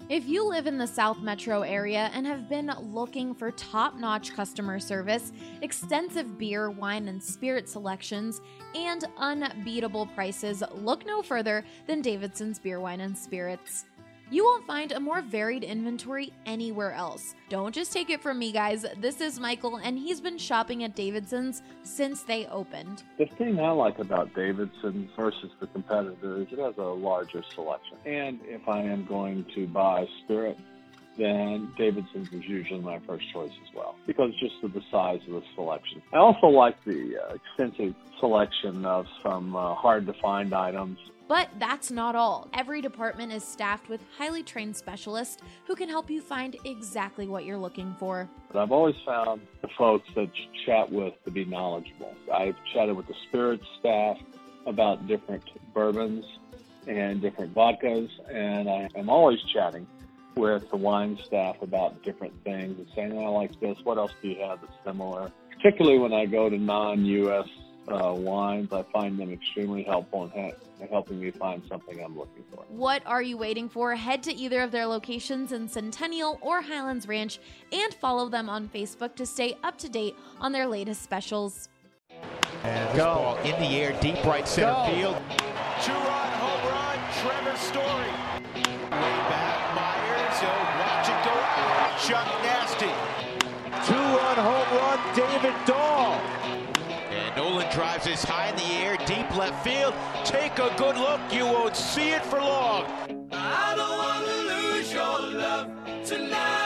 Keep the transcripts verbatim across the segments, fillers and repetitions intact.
If you live in the South Metro area and have been looking for top-notch customer service, extensive beer, wine, and spirit selections, and unbeatable prices, look no further than Davidson's Beer, Wine, and Spirits. You won't find a more varied inventory anywhere else. Don't just take it from me, guys. This is Michael, and he's been shopping at Davidson's since they opened. The thing I like about Davidson's versus the competitor is it has a larger selection. And if I am going to buy spirit, then Davidson's is usually my first choice as well, because just of the size of the selection. I also like the uh, extensive selection of some uh, hard-to-find items. But that's not all. Every department is staffed with highly trained specialists who can help you find exactly what you're looking for. But I've always found the folks that you chat with to be knowledgeable. I've chatted with the spirits staff about different bourbons and different vodkas, and I am always chatting with the wine staff about different things and saying, oh, I like this, what else do you have that's similar? Particularly when I go to non-U S Uh, wines, I find them extremely helpful in ha- helping me find something I'm looking for. What are you waiting for? Head to either of their locations in Centennial or Highlands Ranch and follow them on Facebook to stay up to date on their latest specials. And this ball in the air, deep right center Go. field. Two-run home run, Trevor Story. Way back, Myers, oh, watch it go out. Chuck Nasty. Two-run home run, David Dahl. Nolan drives this high in the air, deep left field. Take a good look, you won't see it for long. I don't want to lose your love tonight.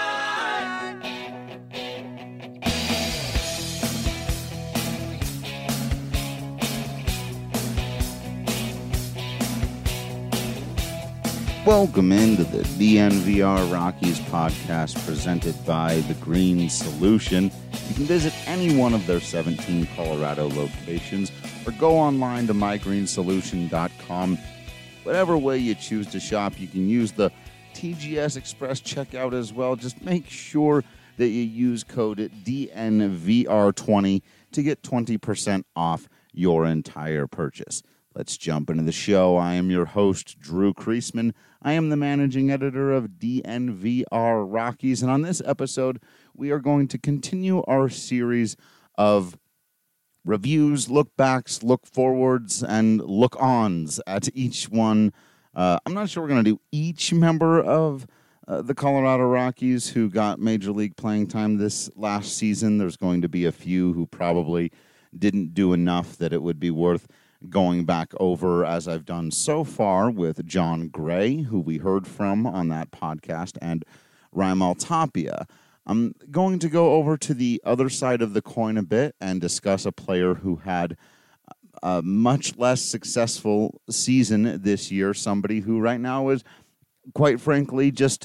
Welcome into the D N V R Rockies podcast presented by The Green Solution. You can visit any one of their seventeen Colorado locations or go online to my green solution dot com. Whatever way you choose to shop, you can use the T G S Express checkout as well. Just make sure that you use code D N V R twenty to get twenty percent off your entire purchase. Let's jump into the show. I am your host, Drew Kreisman. I am the managing editor of D N V R Rockies, and on this episode, we are going to continue our series of reviews, look-backs, look-forwards, and look-ons at each one. Uh, I'm not sure we're going to do each member of uh, the Colorado Rockies who got Major League playing time this last season. There's going to be a few who probably didn't do enough that it would be worth going back over, as I've done so far with John Gray, who we heard from on that podcast, and Raimel Tapia. I'm going to go over to the other side of the coin a bit and discuss a player who had a much less successful season this year, somebody who right now is, quite frankly, just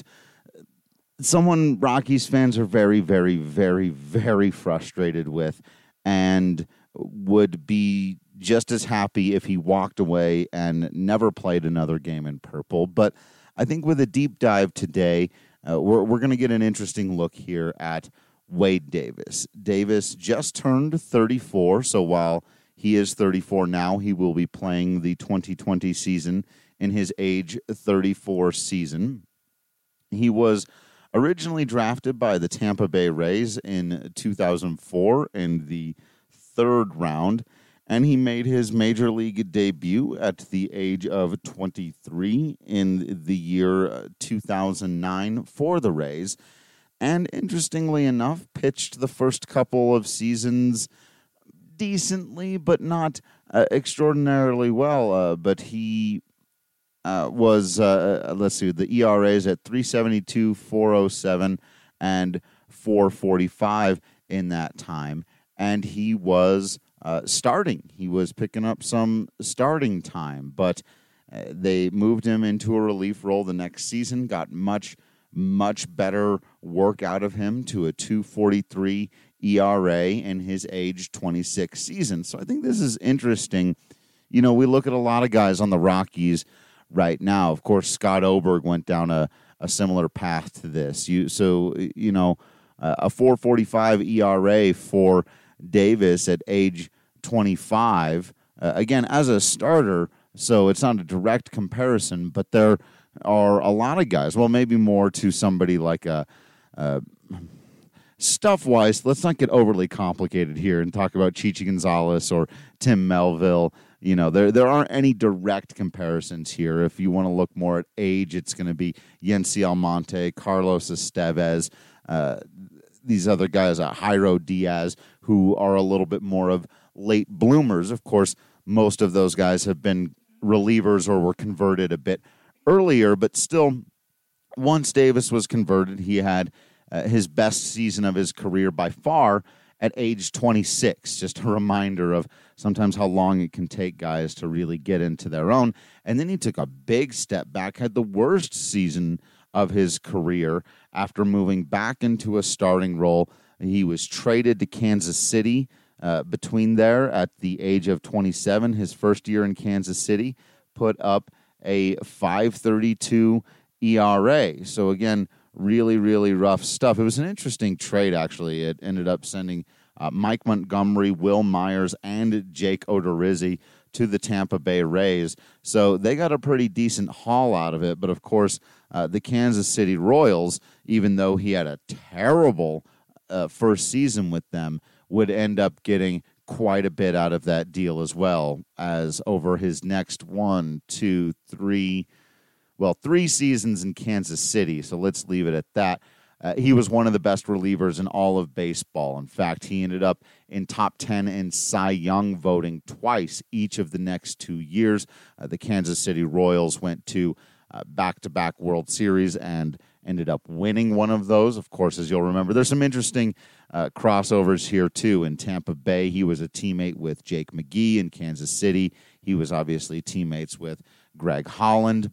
someone Rockies fans are very, very, very, very frustrated with and would be just as happy if he walked away and never played another game in purple. But I think with a deep dive today, uh, we're, we're going to get an interesting look here at Wade Davis. Davis just turned thirty-four, so while he is thirty-four now, he will be playing the twenty twenty season in his age thirty-four season. He was originally drafted by the Tampa Bay Rays in two thousand four in the third round, and he made his Major League debut at the age of twenty-three in the year two thousand nine for the Rays. And interestingly enough, pitched the first couple of seasons decently, but not uh, extraordinarily well. Uh, but he uh, was, uh, let's see, the E R As at three seventy-two, four oh seven, and four forty-five in that time. And he was Uh, starting. He was picking up some starting time, but uh, they moved him into a relief role the next season, got much, much better work out of him to a two forty-three E R A in his age twenty-six season. So I think this is interesting. You know, we look at a lot of guys on the Rockies right now. Of course, Scott Oberg went down a, a similar path to this. You So, you know, uh, a four forty-five E R A for Davis at age twenty-five, uh, again, as a starter, so it's not a direct comparison, but they're are a lot of guys. Well, maybe more to somebody like a, a stuff-wise, let's not get overly complicated here and talk about Chichi Gonzalez or Tim Melville. You know, there there aren't any direct comparisons here. If you want to look more at age, it's going to be Yency Almonte, Carlos Estevez, uh, these other guys, uh, Jairo Diaz, who are a little bit more of late bloomers. Of course, most of those guys have been relievers or were converted a bit earlier, but still, once Davis was converted, he had uh, his best season of his career by far at age twenty-six. Just a reminder of sometimes how long it can take guys to really get into their own. And then he took a big step back, had the worst season of his career after moving back into a starting role. He was traded to Kansas City uh, between there at the age of twenty-seven. His first year in Kansas City put up a five thirty-two E R A. So again, really, really rough stuff. It was an interesting trade, actually. It ended up sending uh, Mike Montgomery, Will Myers, and Jake Odorizzi to the Tampa Bay Rays. So they got a pretty decent haul out of it. But, of course, uh, the Kansas City Royals, even though he had a terrible uh, first season with them, would end up getting quite a bit out of that deal as well, as over his next one, two, three, well, three seasons in Kansas City, so let's leave it at that. Uh, he was one of the best relievers in all of baseball. In fact, he ended up in top ten in Cy Young voting twice each of the next two years. Uh, the Kansas City Royals went to uh, back-to-back World Series and ended up winning one of those. Of course, as you'll remember, there's some interesting uh, crossovers here, too. In Tampa Bay, he was a teammate with Jake McGee. In Kansas City, he was obviously teammates with Greg Holland,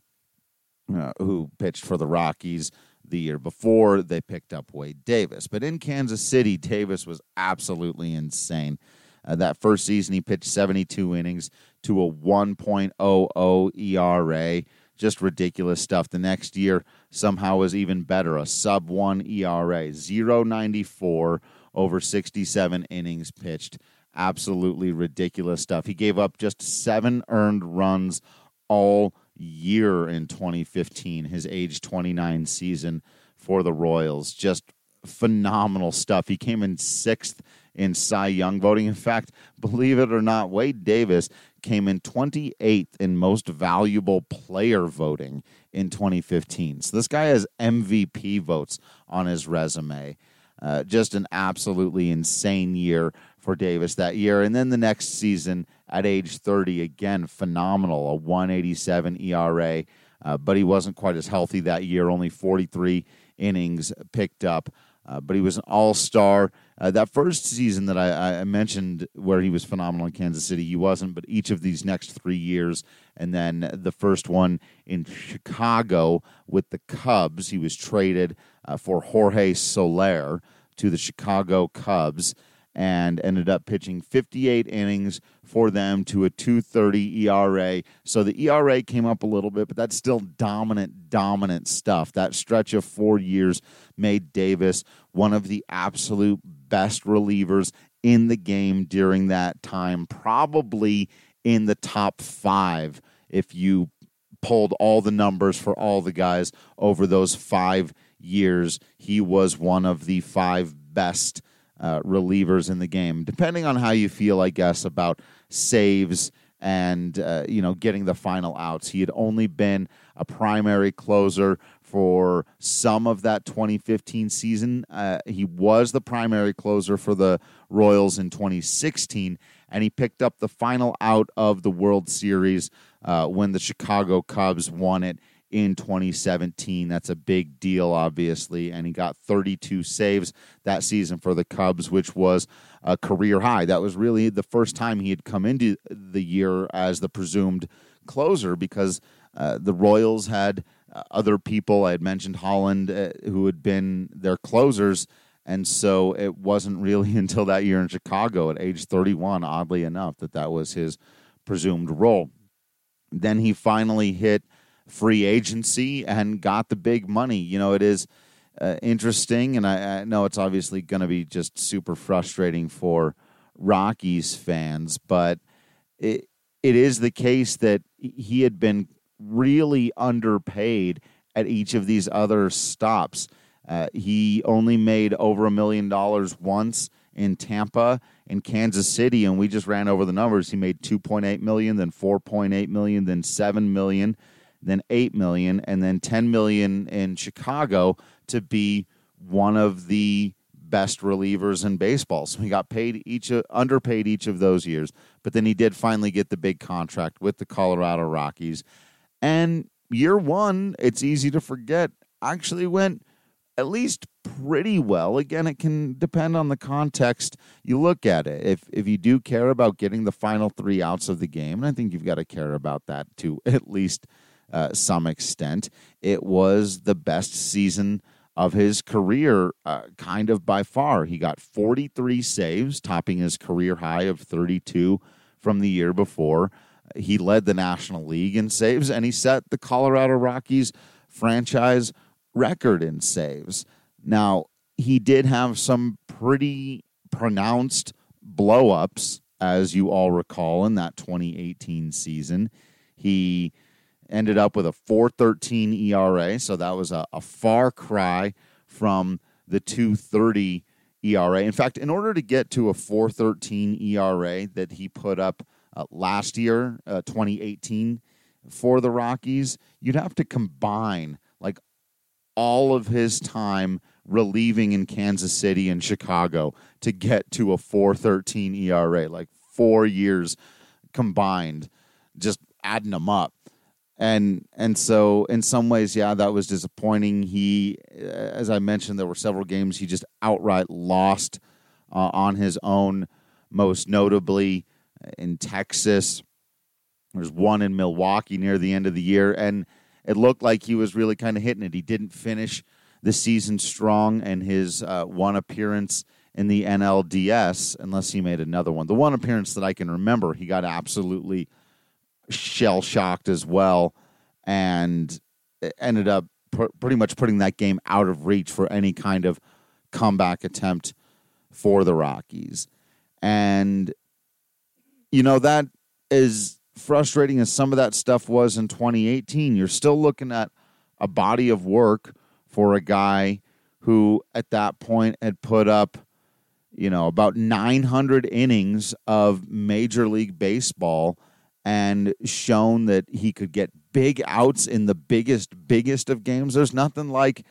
Uh, who pitched for the Rockies the year before. They picked up Wade Davis. But in Kansas City, Davis was absolutely insane. Uh, that first season, he pitched seventy-two innings to a one point oh oh E R A. Just ridiculous stuff. The next year, somehow was even better, a sub one E R A. point oh nine four over sixty-seven innings pitched. Absolutely ridiculous stuff. He gave up just seven earned runs all year in twenty fifteen, his age twenty-nine season for the Royals. Just phenomenal stuff. He came in sixth in Cy Young voting. In fact, believe it or not, Wade Davis came in twenty-eighth in most valuable player voting in twenty fifteen. So this guy has M V P votes on his resume. Uh, just an absolutely insane year for Davis that year. And then the next season at age thirty, again, phenomenal, a one eighty-seven E R A. Uh, but he wasn't quite as healthy that year, only forty-three innings picked up. Uh, but he was an all-star. Uh, that first season that I, I mentioned where he was phenomenal in Kansas City, he wasn't, but each of these next three years, and then the first one in Chicago with the Cubs, he was traded uh, for Jorge Soler to the Chicago Cubs and ended up pitching fifty-eight innings for them to a two thirty E R A. So the E R A came up a little bit, but that's still dominant, dominant stuff. That stretch of four years made Davis one of the absolute best relievers in the game during that time, probably in the top five if you pulled all the numbers for all the guys over those five years. He was one of the five best Uh, relievers in the game, depending on how you feel, I guess, about saves and, uh, you know, getting the final outs. He had only been a primary closer for some of that twenty fifteen season. Uh, he was the primary closer for the Royals in twenty sixteen, and he picked up the final out of the World Series uh, when the Chicago Cubs won it in twenty seventeen. That's a big deal, obviously, and he got thirty-two saves that season for the Cubs, which was a career high. That was really the first time he had come into the year as the presumed closer, because uh, the Royals had uh, other people. I had mentioned Holland, uh, who had been their closers, and so it wasn't really until that year in Chicago at age thirty-one, oddly enough, that that was his presumed role. Then he finally hit free agency and got the big money. You know, it is uh, interesting, and I, I know it's obviously going to be just super frustrating for Rockies fans, but it it is the case that he had been really underpaid at each of these other stops. Uh, he only made over a million dollars once in Tampa and Kansas City, and we just ran over the numbers. He made two point eight million dollars, then four point eight million dollars, then seven million dollars, then eight million dollars, and then ten million dollars in Chicago to be one of the best relievers in baseball. So he got paid each, uh, underpaid each of those years, but then he did finally get the big contract with the Colorado Rockies. And year one, it's easy to forget, actually went at least pretty well. Again, it can depend on the context you look at it. If if you do care about getting the final three outs of the game, and I think you've got to care about that to at least uh, some extent, it was the best season of his career, uh, kind of by far. He got forty-three saves, topping his career high of thirty-two from the year before. He led the National League in saves, and he set the Colorado Rockies franchise record in saves. Now, he did have some pretty pronounced blow-ups, as you all recall, in that twenty eighteen season. He ended up with a four thirteen E R A, so that was a, a far cry from the two thirty E R A. In fact, in order to get to a four thirteen E R A that he put up uh, last year, uh, twenty eighteen, for the Rockies, you'd have to combine like all of his time relieving in Kansas City and Chicago to get to a four thirteen E R A, like four years combined, just adding them up. And and so in some ways, yeah, that was disappointing. He, as I mentioned, there were several games he just outright lost uh, on his own, most notably in Texas. There's one in Milwaukee near the end of the year, and it looked like he was really kind of hitting it. He didn't finish the season strong, and his uh, one appearance in the N L D S, unless he made another one. The one appearance that I can remember, he got absolutely shell-shocked as well, and ended up pr- pretty much putting that game out of reach for any kind of comeback attempt for the Rockies. And, you know, that is frustrating as some of that stuff was in twenty eighteen. You're still looking at a body of work for a guy who at that point had put up, you know, about nine hundred innings of Major League Baseball and shown that he could get big outs in the biggest, biggest of games. There's nothing like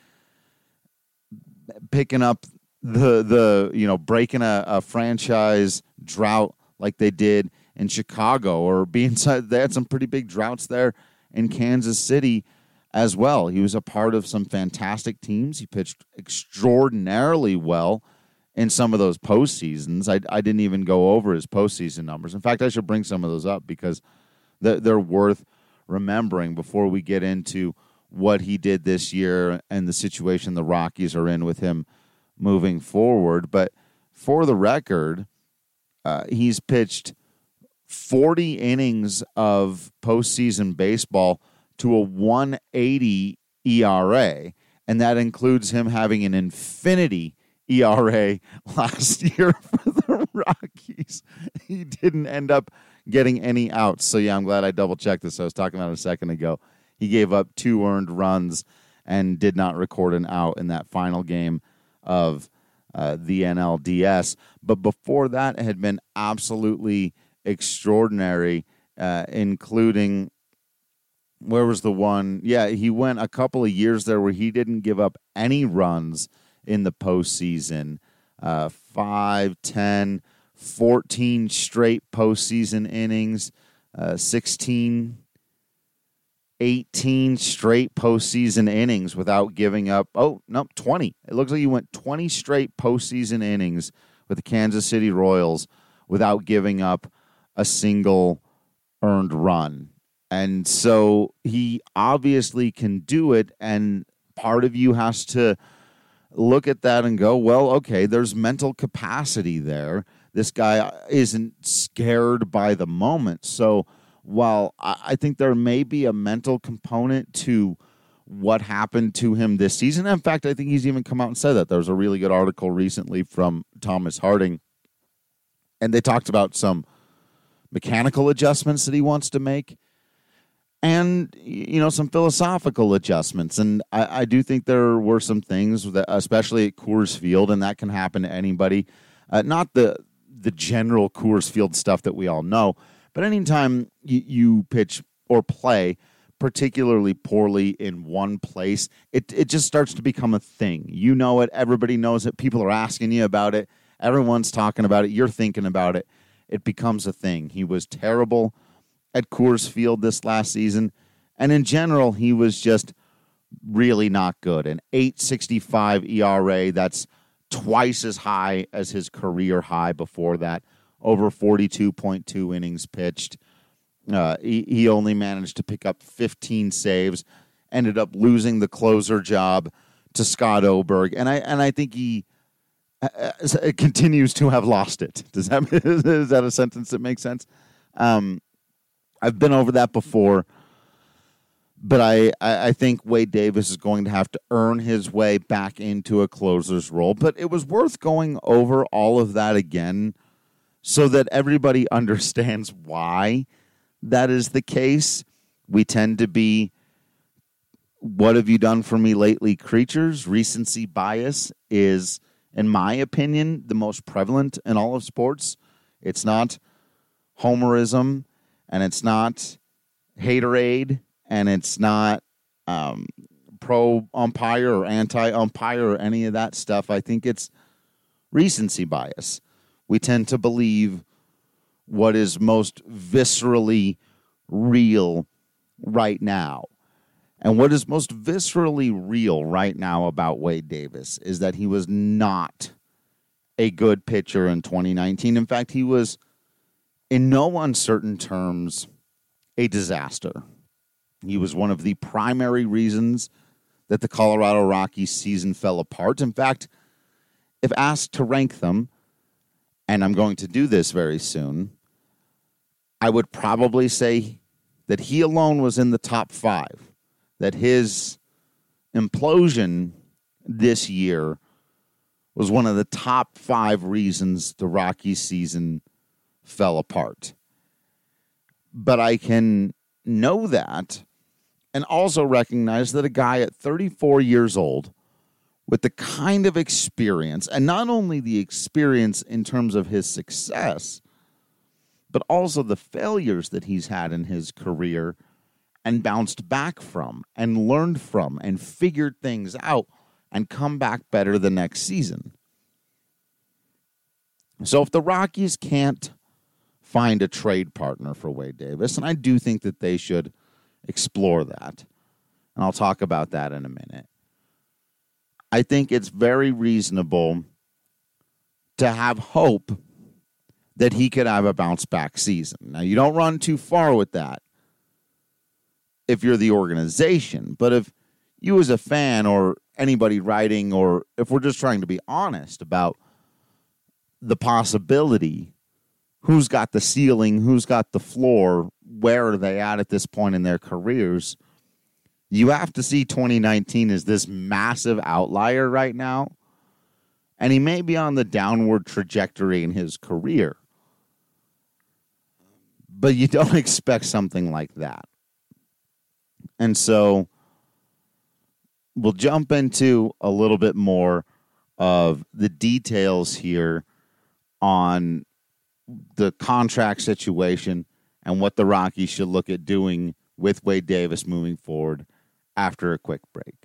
picking up the, the you know, breaking a, a franchise drought like they did in Chicago, or being, they had some pretty big droughts there in Kansas City as well. He was a part of some fantastic teams. He pitched extraordinarily well in some of those postseasons. I, I didn't even go over his postseason numbers. In fact, I should bring some of those up because they're, they're worth remembering before we get into what he did this year and the situation the Rockies are in with him moving forward. But for the record, uh, he's pitched forty innings of postseason baseball to a one eighty E R A, and that includes him having an infinity E R A last year for the Rockies. He didn't end up getting any outs. So, yeah, I'm glad I double-checked this. I was talking about it a second ago. He gave up two earned runs and did not record an out in that final game of uh, the N L D S. But before that, it had been absolutely extraordinary, uh, including, where was the one? Yeah, he went a couple of years there where he didn't give up any runs in the postseason. Uh, five, ten, fourteen straight postseason innings, uh, sixteen, eighteen straight postseason innings without giving up. Oh, no, twenty. It looks like he went twenty straight postseason innings with the Kansas City Royals without giving up a single earned run. And so he obviously can do it, and part of you has to look at that and go, well, okay, there's mental capacity there. This guy isn't scared by the moment. So while I think there may be a mental component to what happened to him this season, in fact, I think he's even come out and said that. There was a really good article recently from Thomas Harding, and they talked about some mechanical adjustments that he wants to make. and, you know, some philosophical adjustments. And I, I do think there were some things, that, especially at Coors Field, and that can happen to anybody. Uh, not the the general Coors Field stuff that we all know, but anytime you, you pitch or play particularly poorly in one place, it it just starts to become a thing. You know it. Everybody knows it. People are asking you about it. Everyone's talking about it. You're thinking about it. It becomes a thing. He was terrible at Coors Field this last season, and in general, he was just really not good. An eight sixty-five E R A, that's twice as high as his career high before that, over forty-two point two innings pitched. Uh, he, he only managed to pick up fifteen saves, ended up losing the closer job to Scott Oberg, and I and I think he uh, continues to have lost it. Does that is that a sentence that makes sense? Um, I've been over that before, but I, I think Wade Davis is going to have to earn his way back into a closer's role. But it was worth going over all of that again so that everybody understands why that is the case. We tend to be, what have you done for me lately creatures? Recency bias is, in my opinion, the most prevalent in all of sports. It's not homerism, and it's not haterade, and it's not um, pro-umpire or anti-umpire or any of that stuff. I think it's recency bias. We tend to believe what is most viscerally real right now. And what is most viscerally real right now about Wade Davis is that he was not a good pitcher in twenty nineteen. In fact, he was, in no uncertain terms, a disaster. He was one of the primary reasons that the Colorado Rockies season fell apart. In fact, if asked to rank them, and I'm going to do this very soon, I would probably say that he alone was in the top five, that his implosion this year was one of the top five reasons the Rockies season fell apart. But I can know that and also recognize that a guy at thirty-four years old with the kind of experience, and not only the experience in terms of his success, but also the failures that he's had in his career and bounced back from and learned from and figured things out and come back better the next season. So if the Rockies can't find a trade partner for Wade Davis, and I do think that they should explore that, and I'll talk about that in a minute, I think it's very reasonable to have hope that he could have a bounce-back season. Now, you don't run too far with that if you're the organization, but if you as a fan or anybody writing, or if we're just trying to be honest about the possibility, who's got the ceiling, who's got the floor, where are they at at this point in their careers, you have to see twenty nineteen as this massive outlier right now, and he may be on the downward trajectory in his career, but you don't expect something like that. And so we'll jump into a little bit more of the details here on the contract situation and what the Rockies should look at doing with Wade Davis moving forward after a quick break.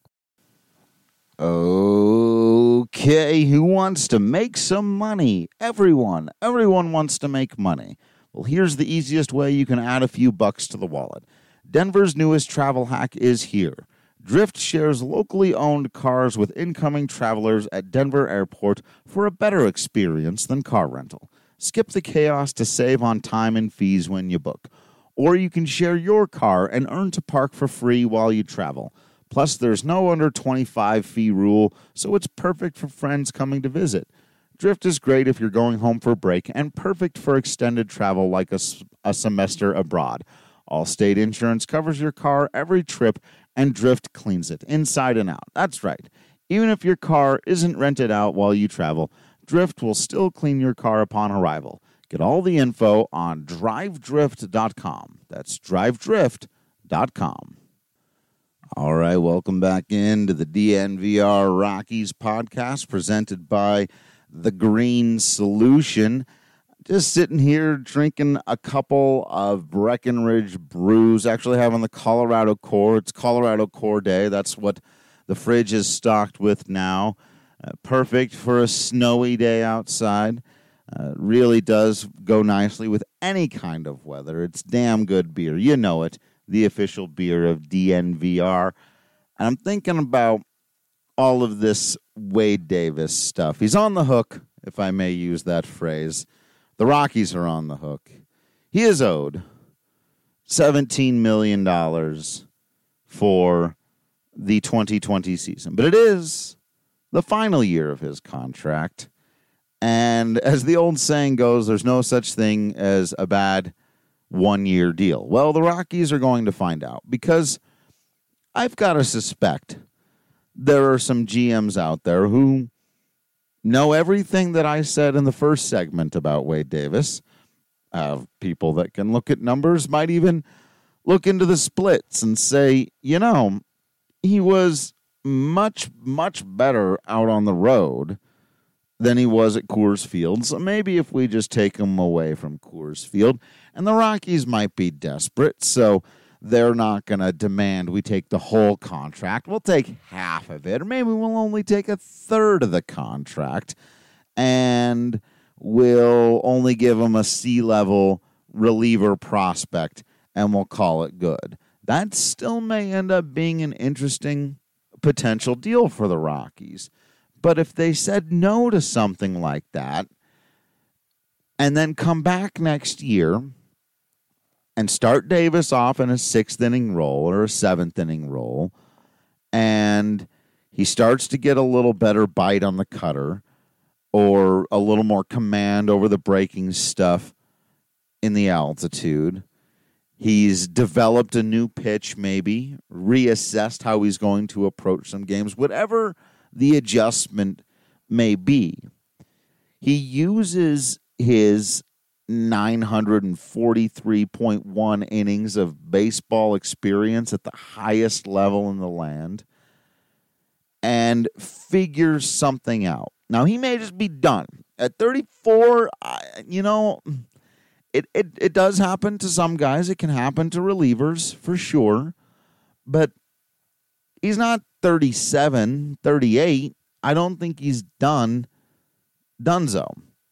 Okay, who wants to make some money? Everyone. Everyone wants to make money. Well, here's the easiest way you can add a few bucks to the wallet. Denver's newest travel hack is here. Drift shares locally owned cars with incoming travelers at Denver Airport for a better experience than car rental. Skip the chaos to save on time and fees when you book. Or you can share your car and earn to park for free while you travel. Plus, there's no under twenty-five fee rule, so it's perfect for friends coming to visit. Drift is great if you're going home for a break and perfect for extended travel like a, a semester abroad. Allstate Insurance covers your car every trip, and Drift cleans it inside and out. That's right. Even if your car isn't rented out while you travel, Drift will still clean your car upon arrival. Get all the info on drive drift dot com. That's drive drift dot com. All right, welcome back into the D N V R Rockies podcast presented by The Green Solution. Just sitting here drinking a couple of Breckenridge brews, actually having the Colorado Core. It's Colorado Core Day. That's what the fridge is stocked with now. Uh, perfect for a snowy day outside. Uh, really does go nicely with any kind of weather. It's damn good beer. You know it. The official beer of D N V R. And I'm thinking about all of this Wade Davis stuff. He's on the hook, if I may use that phrase. The Rockies are on the hook. He is owed seventeen million dollars for the twenty twenty season. But it is the final year of his contract. And as the old saying goes, there's no such thing as a bad one-year deal. Well, the Rockies are going to find out because I've got to suspect there are some G Ms out there who know everything that I said in the first segment about Wade Davis. Uh, people that can look at numbers might even look into the splits and say, you know, he was much, much better out on the road than he was at Coors Field. So maybe if we just take him away from Coors Field, and the Rockies might be desperate, so they're not going to demand we take the whole contract. We'll take half of it, or maybe we'll only take a third of the contract, and we'll only give him a C-level reliever prospect, and we'll call it good. That still may end up being an interesting potential deal for the Rockies. But if they said no to something like that and then come back next year and start Davis off in a sixth inning role or a seventh inning role, and he starts to get a little better bite on the cutter or a little more command over the breaking stuff in the altitude, he's developed a new pitch maybe, reassessed how he's going to approach some games, whatever the adjustment may be. He uses his nine hundred forty-three point one innings of baseball experience at the highest level in the land and figures something out. Now, he may just be done. At thirty-four, I, you know, it, it, it does happen to some guys. It can happen to relievers, for sure. But he's not thirty-seven, thirty-eight. I don't think he's done donezo.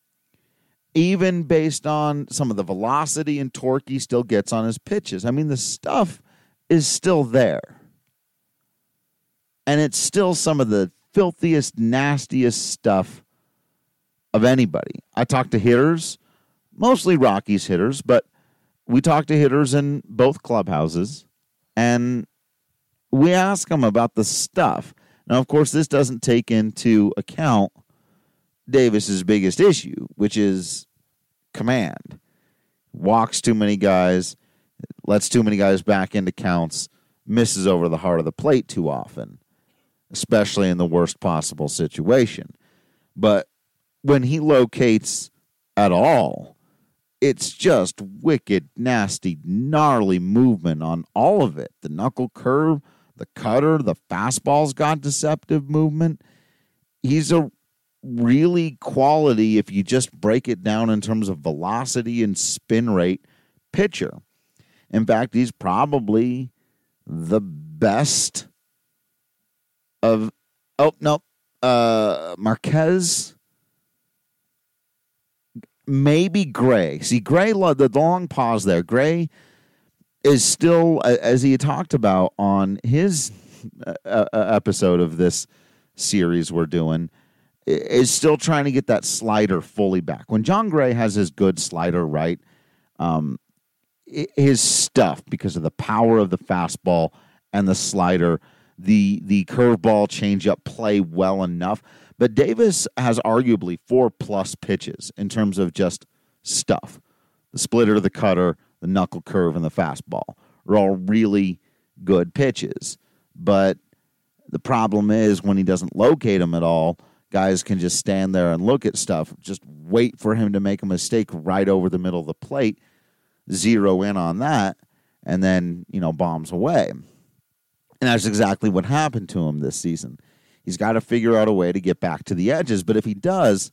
Even based on some of the velocity and torque he still gets on his pitches. I mean, the stuff is still there. And it's still some of the filthiest, nastiest stuff of anybody. I talk to hitters, mostly Rockies hitters, but we talk to hitters in both clubhouses, and we ask them about the stuff. Now, of course, this doesn't take into account Davis's biggest issue, which is command. Walks too many guys, lets too many guys back into counts, misses over the heart of the plate too often, especially in the worst possible situation. But when he locates at all, it's just wicked, nasty, gnarly movement on all of it. The knuckle curve, the cutter, the fastball's got deceptive movement. He's a really quality, if you just break it down in terms of velocity and spin rate, pitcher. In fact, he's probably the best of, oh, no, uh, Marquez, maybe Gray. See, Gray, the long pause there, Gray is still, as he talked about on his uh, episode of this series we're doing, is still trying to get that slider fully back. When John Gray has his good slider right, um, his stuff, because of the power of the fastball and the slider, the the curveball, changeup play well enough. But Davis has arguably four-plus pitches in terms of just stuff. The splitter, the cutter, the knuckle curve, and the fastball are all really good pitches. But the problem is when he doesn't locate them at all, guys can just stand there and look at stuff, just wait for him to make a mistake right over the middle of the plate, zero in on that, and then, you know, bombs away. And that's exactly what happened to him this season. He's got to figure out a way to get back to the edges. But if he does,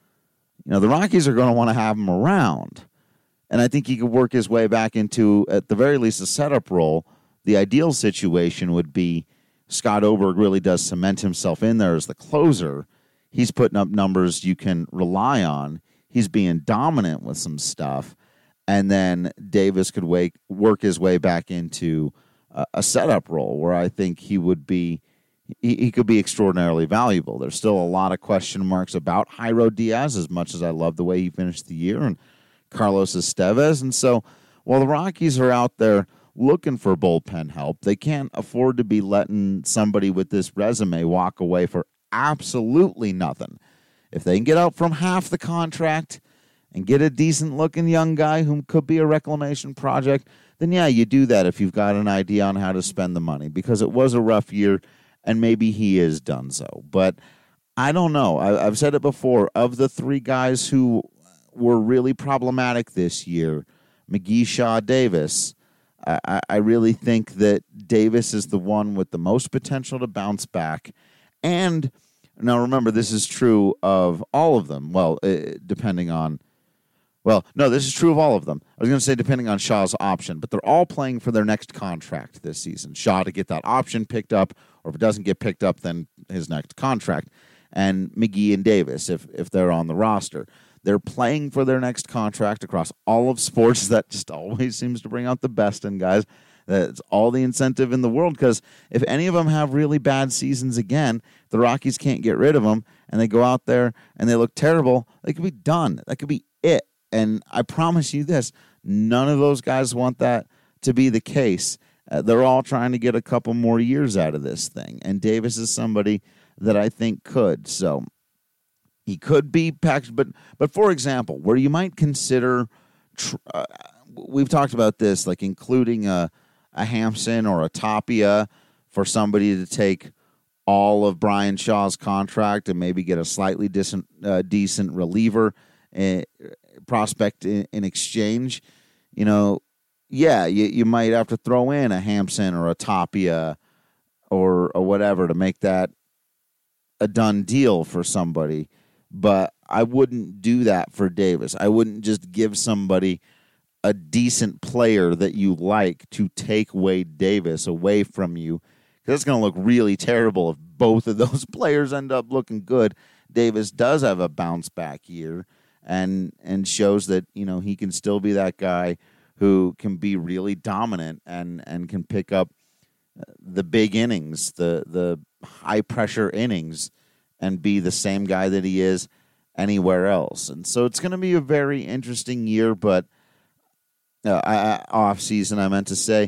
you know, the Rockies are going to want to have him around. And I think he could work his way back into, at the very least, a setup role. The ideal situation would be Scott Oberg really does cement himself in there as the closer. He's putting up numbers you can rely on. He's being dominant with some stuff. And then Davis could wake, work his way back into a, a setup role where I think he would be, he, he could be extraordinarily valuable. There's still a lot of question marks about Jairo Diaz, as much as I love the way he finished the year, and Carlos Estevez. And so while the Rockies are out there looking for bullpen help, they can't afford to be letting somebody with this resume walk away for absolutely nothing. If they can get out from half the contract and get a decent-looking young guy who could be a reclamation project, then yeah, you do that if you've got an idea on how to spend the money, because it was a rough year, and maybe he is done so. But I don't know. I, I've said it before. Of the three guys who were really problematic this year, McGee, Shaw, Davis, I, I really think that Davis is the one with the most potential to bounce back. And now remember, this is true of all of them. Well, uh, depending on, well, no, this is true of all of them. I was going to say depending on Shaw's option, but they're all playing for their next contract this season. Shaw to get that option picked up, or if it doesn't get picked up, then his next contract. And McGee and Davis, if if they're on the roster. They're playing for their next contract across all of sports. That just always seems to bring out the best in guys. That's all the incentive in the world, because if any of them have really bad seasons again, the Rockies can't get rid of them, and they go out there and they look terrible, they could be done. That could be it. And I promise you this, none of those guys want that to be the case. Uh, they're all trying to get a couple more years out of this thing, and Davis is somebody that I think could. So he could be packaged, but but for example, where you might consider, tr- uh, we've talked about this, like including a, a Hampson or a Tapia for somebody to take all of Brian Shaw's contract and maybe get a slightly decent, uh, decent reliever uh, prospect in, in exchange. You know, yeah, you, you might have to throw in a Hampson or a Tapia or, or whatever to make that a done deal for somebody. But I wouldn't do that for Davis. I wouldn't just give somebody a decent player that you like to take Wade Davis away from you, because it's going to look really terrible if both of those players end up looking good. Davis does have a bounce back year and and shows that, you know, he can still be that guy who can be really dominant and, and can pick up the big innings, the the high pressure innings, and be the same guy that he is anywhere else. And so it's going to be a very interesting year, but uh, I, off season, I meant to say,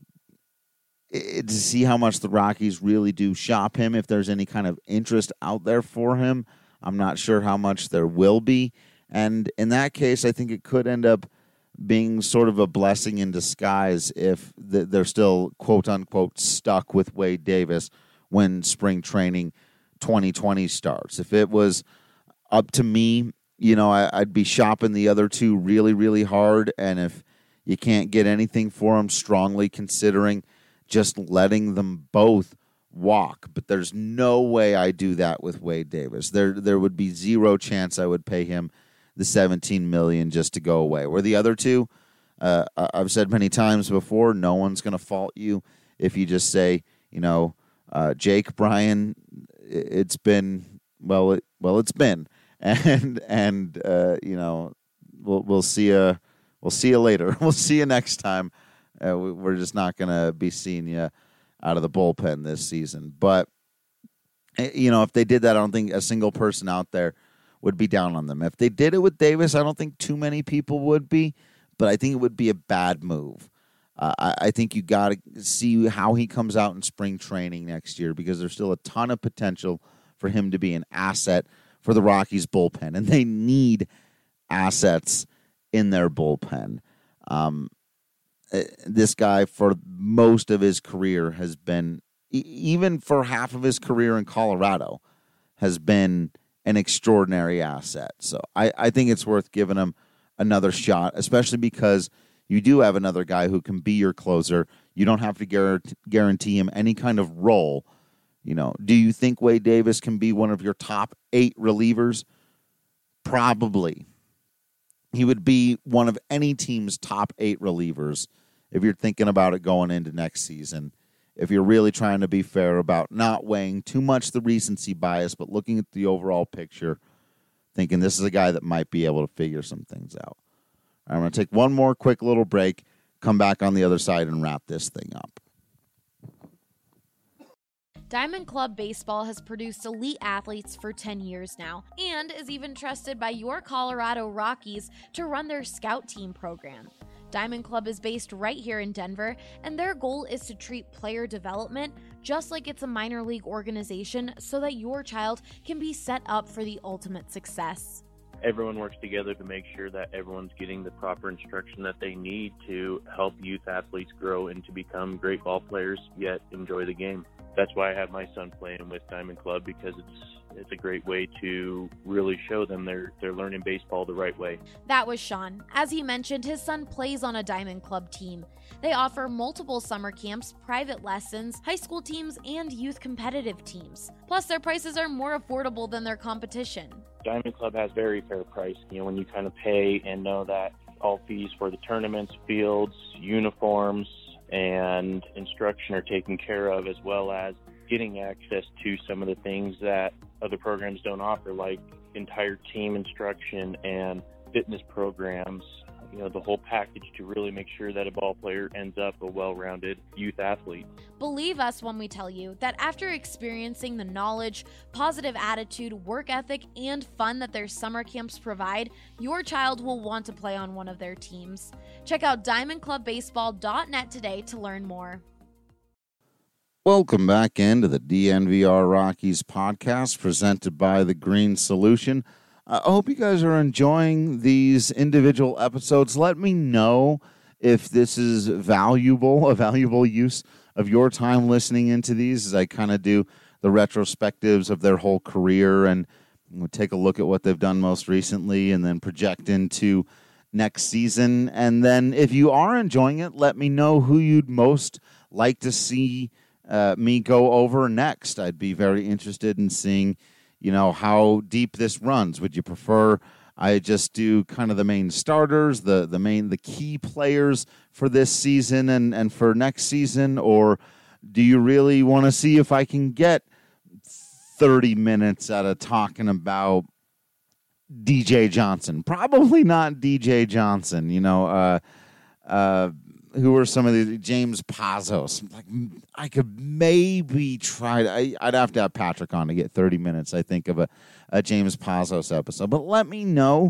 it, to see how much the Rockies really do shop him, if there's any kind of interest out there for him. I'm not sure how much there will be. And in that case, I think it could end up being sort of a blessing in disguise if the, they're still, quote unquote, stuck with Wade Davis when spring training twenty twenty starts. If it was up to me, you know, I, I'd be shopping the other two really, really hard. And if you can't get anything for them, strongly considering just letting them both walk. But there's no way I do that with Wade Davis. There, there would be zero chance I would pay him the seventeen million dollars just to go away. Where the other two, uh, I've said many times before, no one's going to fault you if you just say, you know, uh, Jake, Brian, it's been, well, it, well, it's been, and, and, uh, you know, we'll, we'll see you, we'll see you later. We'll see you next time. Uh, we, we're just not going to be seeing you out of the bullpen this season. But, you know, if they did that, I don't think a single person out there would be down on them. If they did it with Davis, I don't think too many people would be, but I think it would be a bad move. Uh, I, I think you got to see how he comes out in spring training next year, because there's still a ton of potential for him to be an asset for the Rockies bullpen, and they need assets in their bullpen. Um, this guy, for most of his career, has been, even for half of his career in Colorado, has been an extraordinary asset. So I, I think it's worth giving him another shot, especially because you do have another guy who can be your closer. You don't have to guarantee, guarantee him any kind of role. You know, do you think Wade Davis can be one of your top eight relievers? Probably. He would be one of any team's top eight relievers if you're thinking about it going into next season. If you're really trying to be fair about not weighing too much the recency bias, but looking at the overall picture, thinking this is a guy that might be able to figure some things out. I'm going to take one more quick little break, come back on the other side, and wrap this thing up. Diamond Club Baseball has produced elite athletes for ten years now and is even trusted by your Colorado Rockies to run their scout team program. Diamond Club is based right here in Denver, and their goal is to treat player development just like it's a minor league organization so that your child can be set up for the ultimate success. Everyone works together to make sure that everyone's getting the proper instruction that they need to help youth athletes grow and to become great ball players, yet enjoy the game. That's why I have my son playing with Diamond Club, because it's it's a great way to really show them they're they're learning baseball the right way. That was Sean. As he mentioned, his son plays on a Diamond Club team. They offer multiple summer camps, private lessons, high school teams, and youth competitive teams. Plus, their prices are more affordable than their competition. Diamond Club has very fair price. You know, when you kind of pay and know that all fees for the tournaments, fields, uniforms, and instruction are taken care of, as well as getting access to some of the things that other programs don't offer, like entire team instruction and fitness programs, you know, the whole package to really make sure that a ball player ends up a well-rounded youth athlete. Believe us when we tell you that after experiencing the knowledge, positive attitude, work ethic, and fun that their summer camps provide, your child will want to play on one of their teams. Check out diamond club baseball dot net today to learn more. Welcome back into the D N V R Rockies podcast presented by The Green Solution. I hope you guys are enjoying these individual episodes. Let me know if this is valuable, a valuable use of your time listening into these, as I kind of do the retrospectives of their whole career and we'll take a look at what they've done most recently and then project into next season. And then if you are enjoying it, let me know who you'd most like to see uh, me go over next. I'd be very interested in seeing, you know, how deep this runs. Would you prefer I just do kind of the main starters, the the main the key players for this season and, and for next season, or do you really want to see if I can get thirty minutes out of talking about D J Johnson? Probably not D J Johnson. You know, uh, uh, who are some of the James Pazos? Like, I could maybe try. To, I, I'd have to have Patrick on to get thirty minutes, I think, of a, a James Pazos episode. But let me know,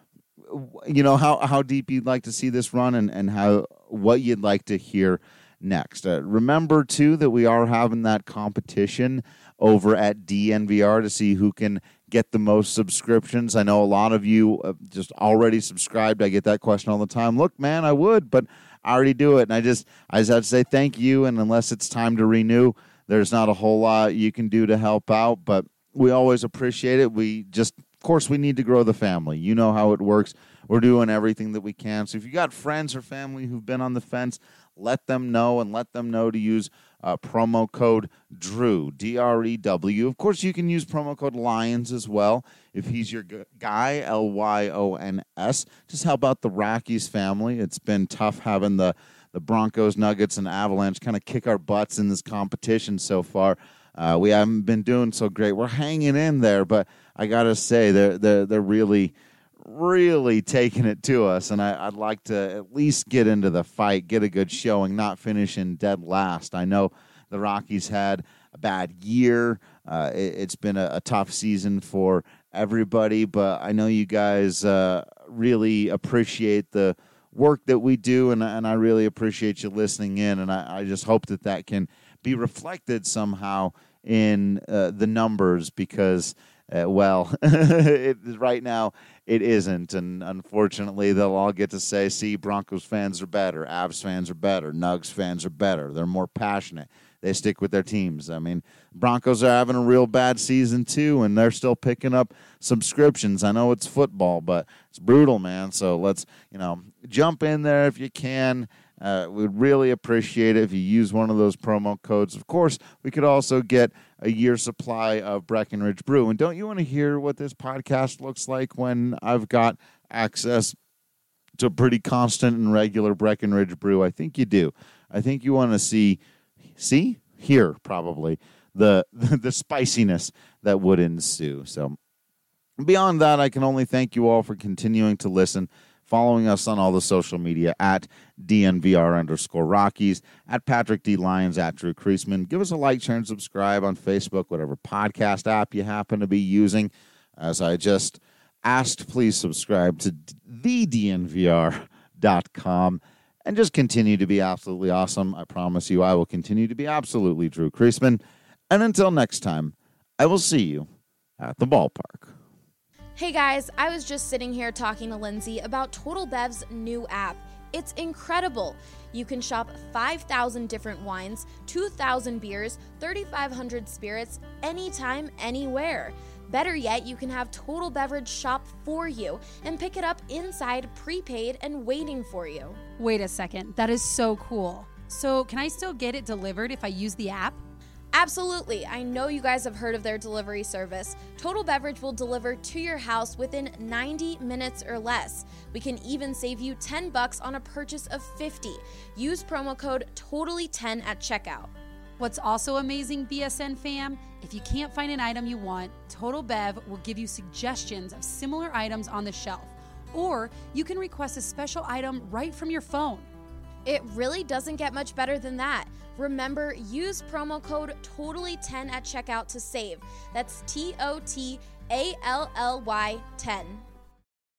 you know, how, how deep you'd like to see this run and, and how what you'd like to hear next. Uh, remember, too, that we are having that competition over at D N V R to see who can get the most subscriptions. I know a lot of you uh, just already subscribed. I get that question all the time. Look, man, I would, but I already do it. And I just I just have to say thank you. And unless it's time to renew, there's not a whole lot you can do to help out. But we always appreciate it. We just, of course, we need to grow the family. You know how it works. We're doing everything that we can. So if you got friends or family who've been on the fence, let them know and let them know to use uh, promo code Drew, D R E W. Of course, you can use promo code Lions as well if he's your g- guy, L Y O N S. Just help out the Rockies family. It's been tough having the, the Broncos, Nuggets, and Avalanche kind of kick our butts in this competition so far. Uh, we haven't been doing so great. We're hanging in there, but I got to say, they're, they're, they're really... really taking it to us, and I, I'd like to at least get into the fight, get a good showing, not finishing dead last. I know the Rockies had a bad year. Uh, it, it's been a, a tough season for everybody, but I know you guys uh, really appreciate the work that we do, and, and I really appreciate you listening in, and I, I just hope that that can be reflected somehow in uh, the numbers because Uh, well, it, right now it isn't, and unfortunately they'll all get to say, see, Broncos fans are better, Avs fans are better, Nugs fans are better, they're more passionate, they stick with their teams. I mean, Broncos are having a real bad season too, and they're still picking up subscriptions. I know it's football, but it's brutal, man. So let's, you know, jump in there if you can. Uh, we'd really appreciate it if you use one of those promo codes. Of course, we could also get a year's supply of Breckenridge Brew. And don't you want to hear what this podcast looks like when I've got access to pretty constant and regular Breckenridge Brew? I think you do. I think you want to see, see, hear probably, the, the, the spiciness that would ensue. So beyond that, I can only thank you all for continuing to listen, following us on all the social media at D N V R underscore Rockies, at Patrick D. Lyons, at Drew Creasman. Give us a like, share, and subscribe on Facebook, whatever podcast app you happen to be using. As I just asked, please subscribe to the D N V R dot com and just continue to be absolutely awesome. I promise you I will continue to be absolutely Drew Creasman. And until next time, I will see you at the ballpark. Hey guys, I was just sitting here talking to Lindsay about Total Bev's new app. It's incredible. You can shop five thousand different wines, two thousand beers, thirty-five hundred spirits, anytime, anywhere. Better yet, you can have Total Beverage shop for you and pick it up inside, prepaid, and waiting for you. Wait a second, that is so cool. So can I still get it delivered if I use the app? Absolutely. I know you guys have heard of their delivery service. Total Beverage will deliver to your house within ninety minutes or less. We can even save you ten bucks on a purchase of fifty. Use promo code totally ten at checkout. What's also amazing, B S N fam, if you can't find an item you want, Total Bev will give you suggestions of similar items on the shelf. Or you can request a special item right from your phone. It really doesn't get much better than that. Remember, use promo code totally ten at checkout to save. That's T O T A L L Y ten.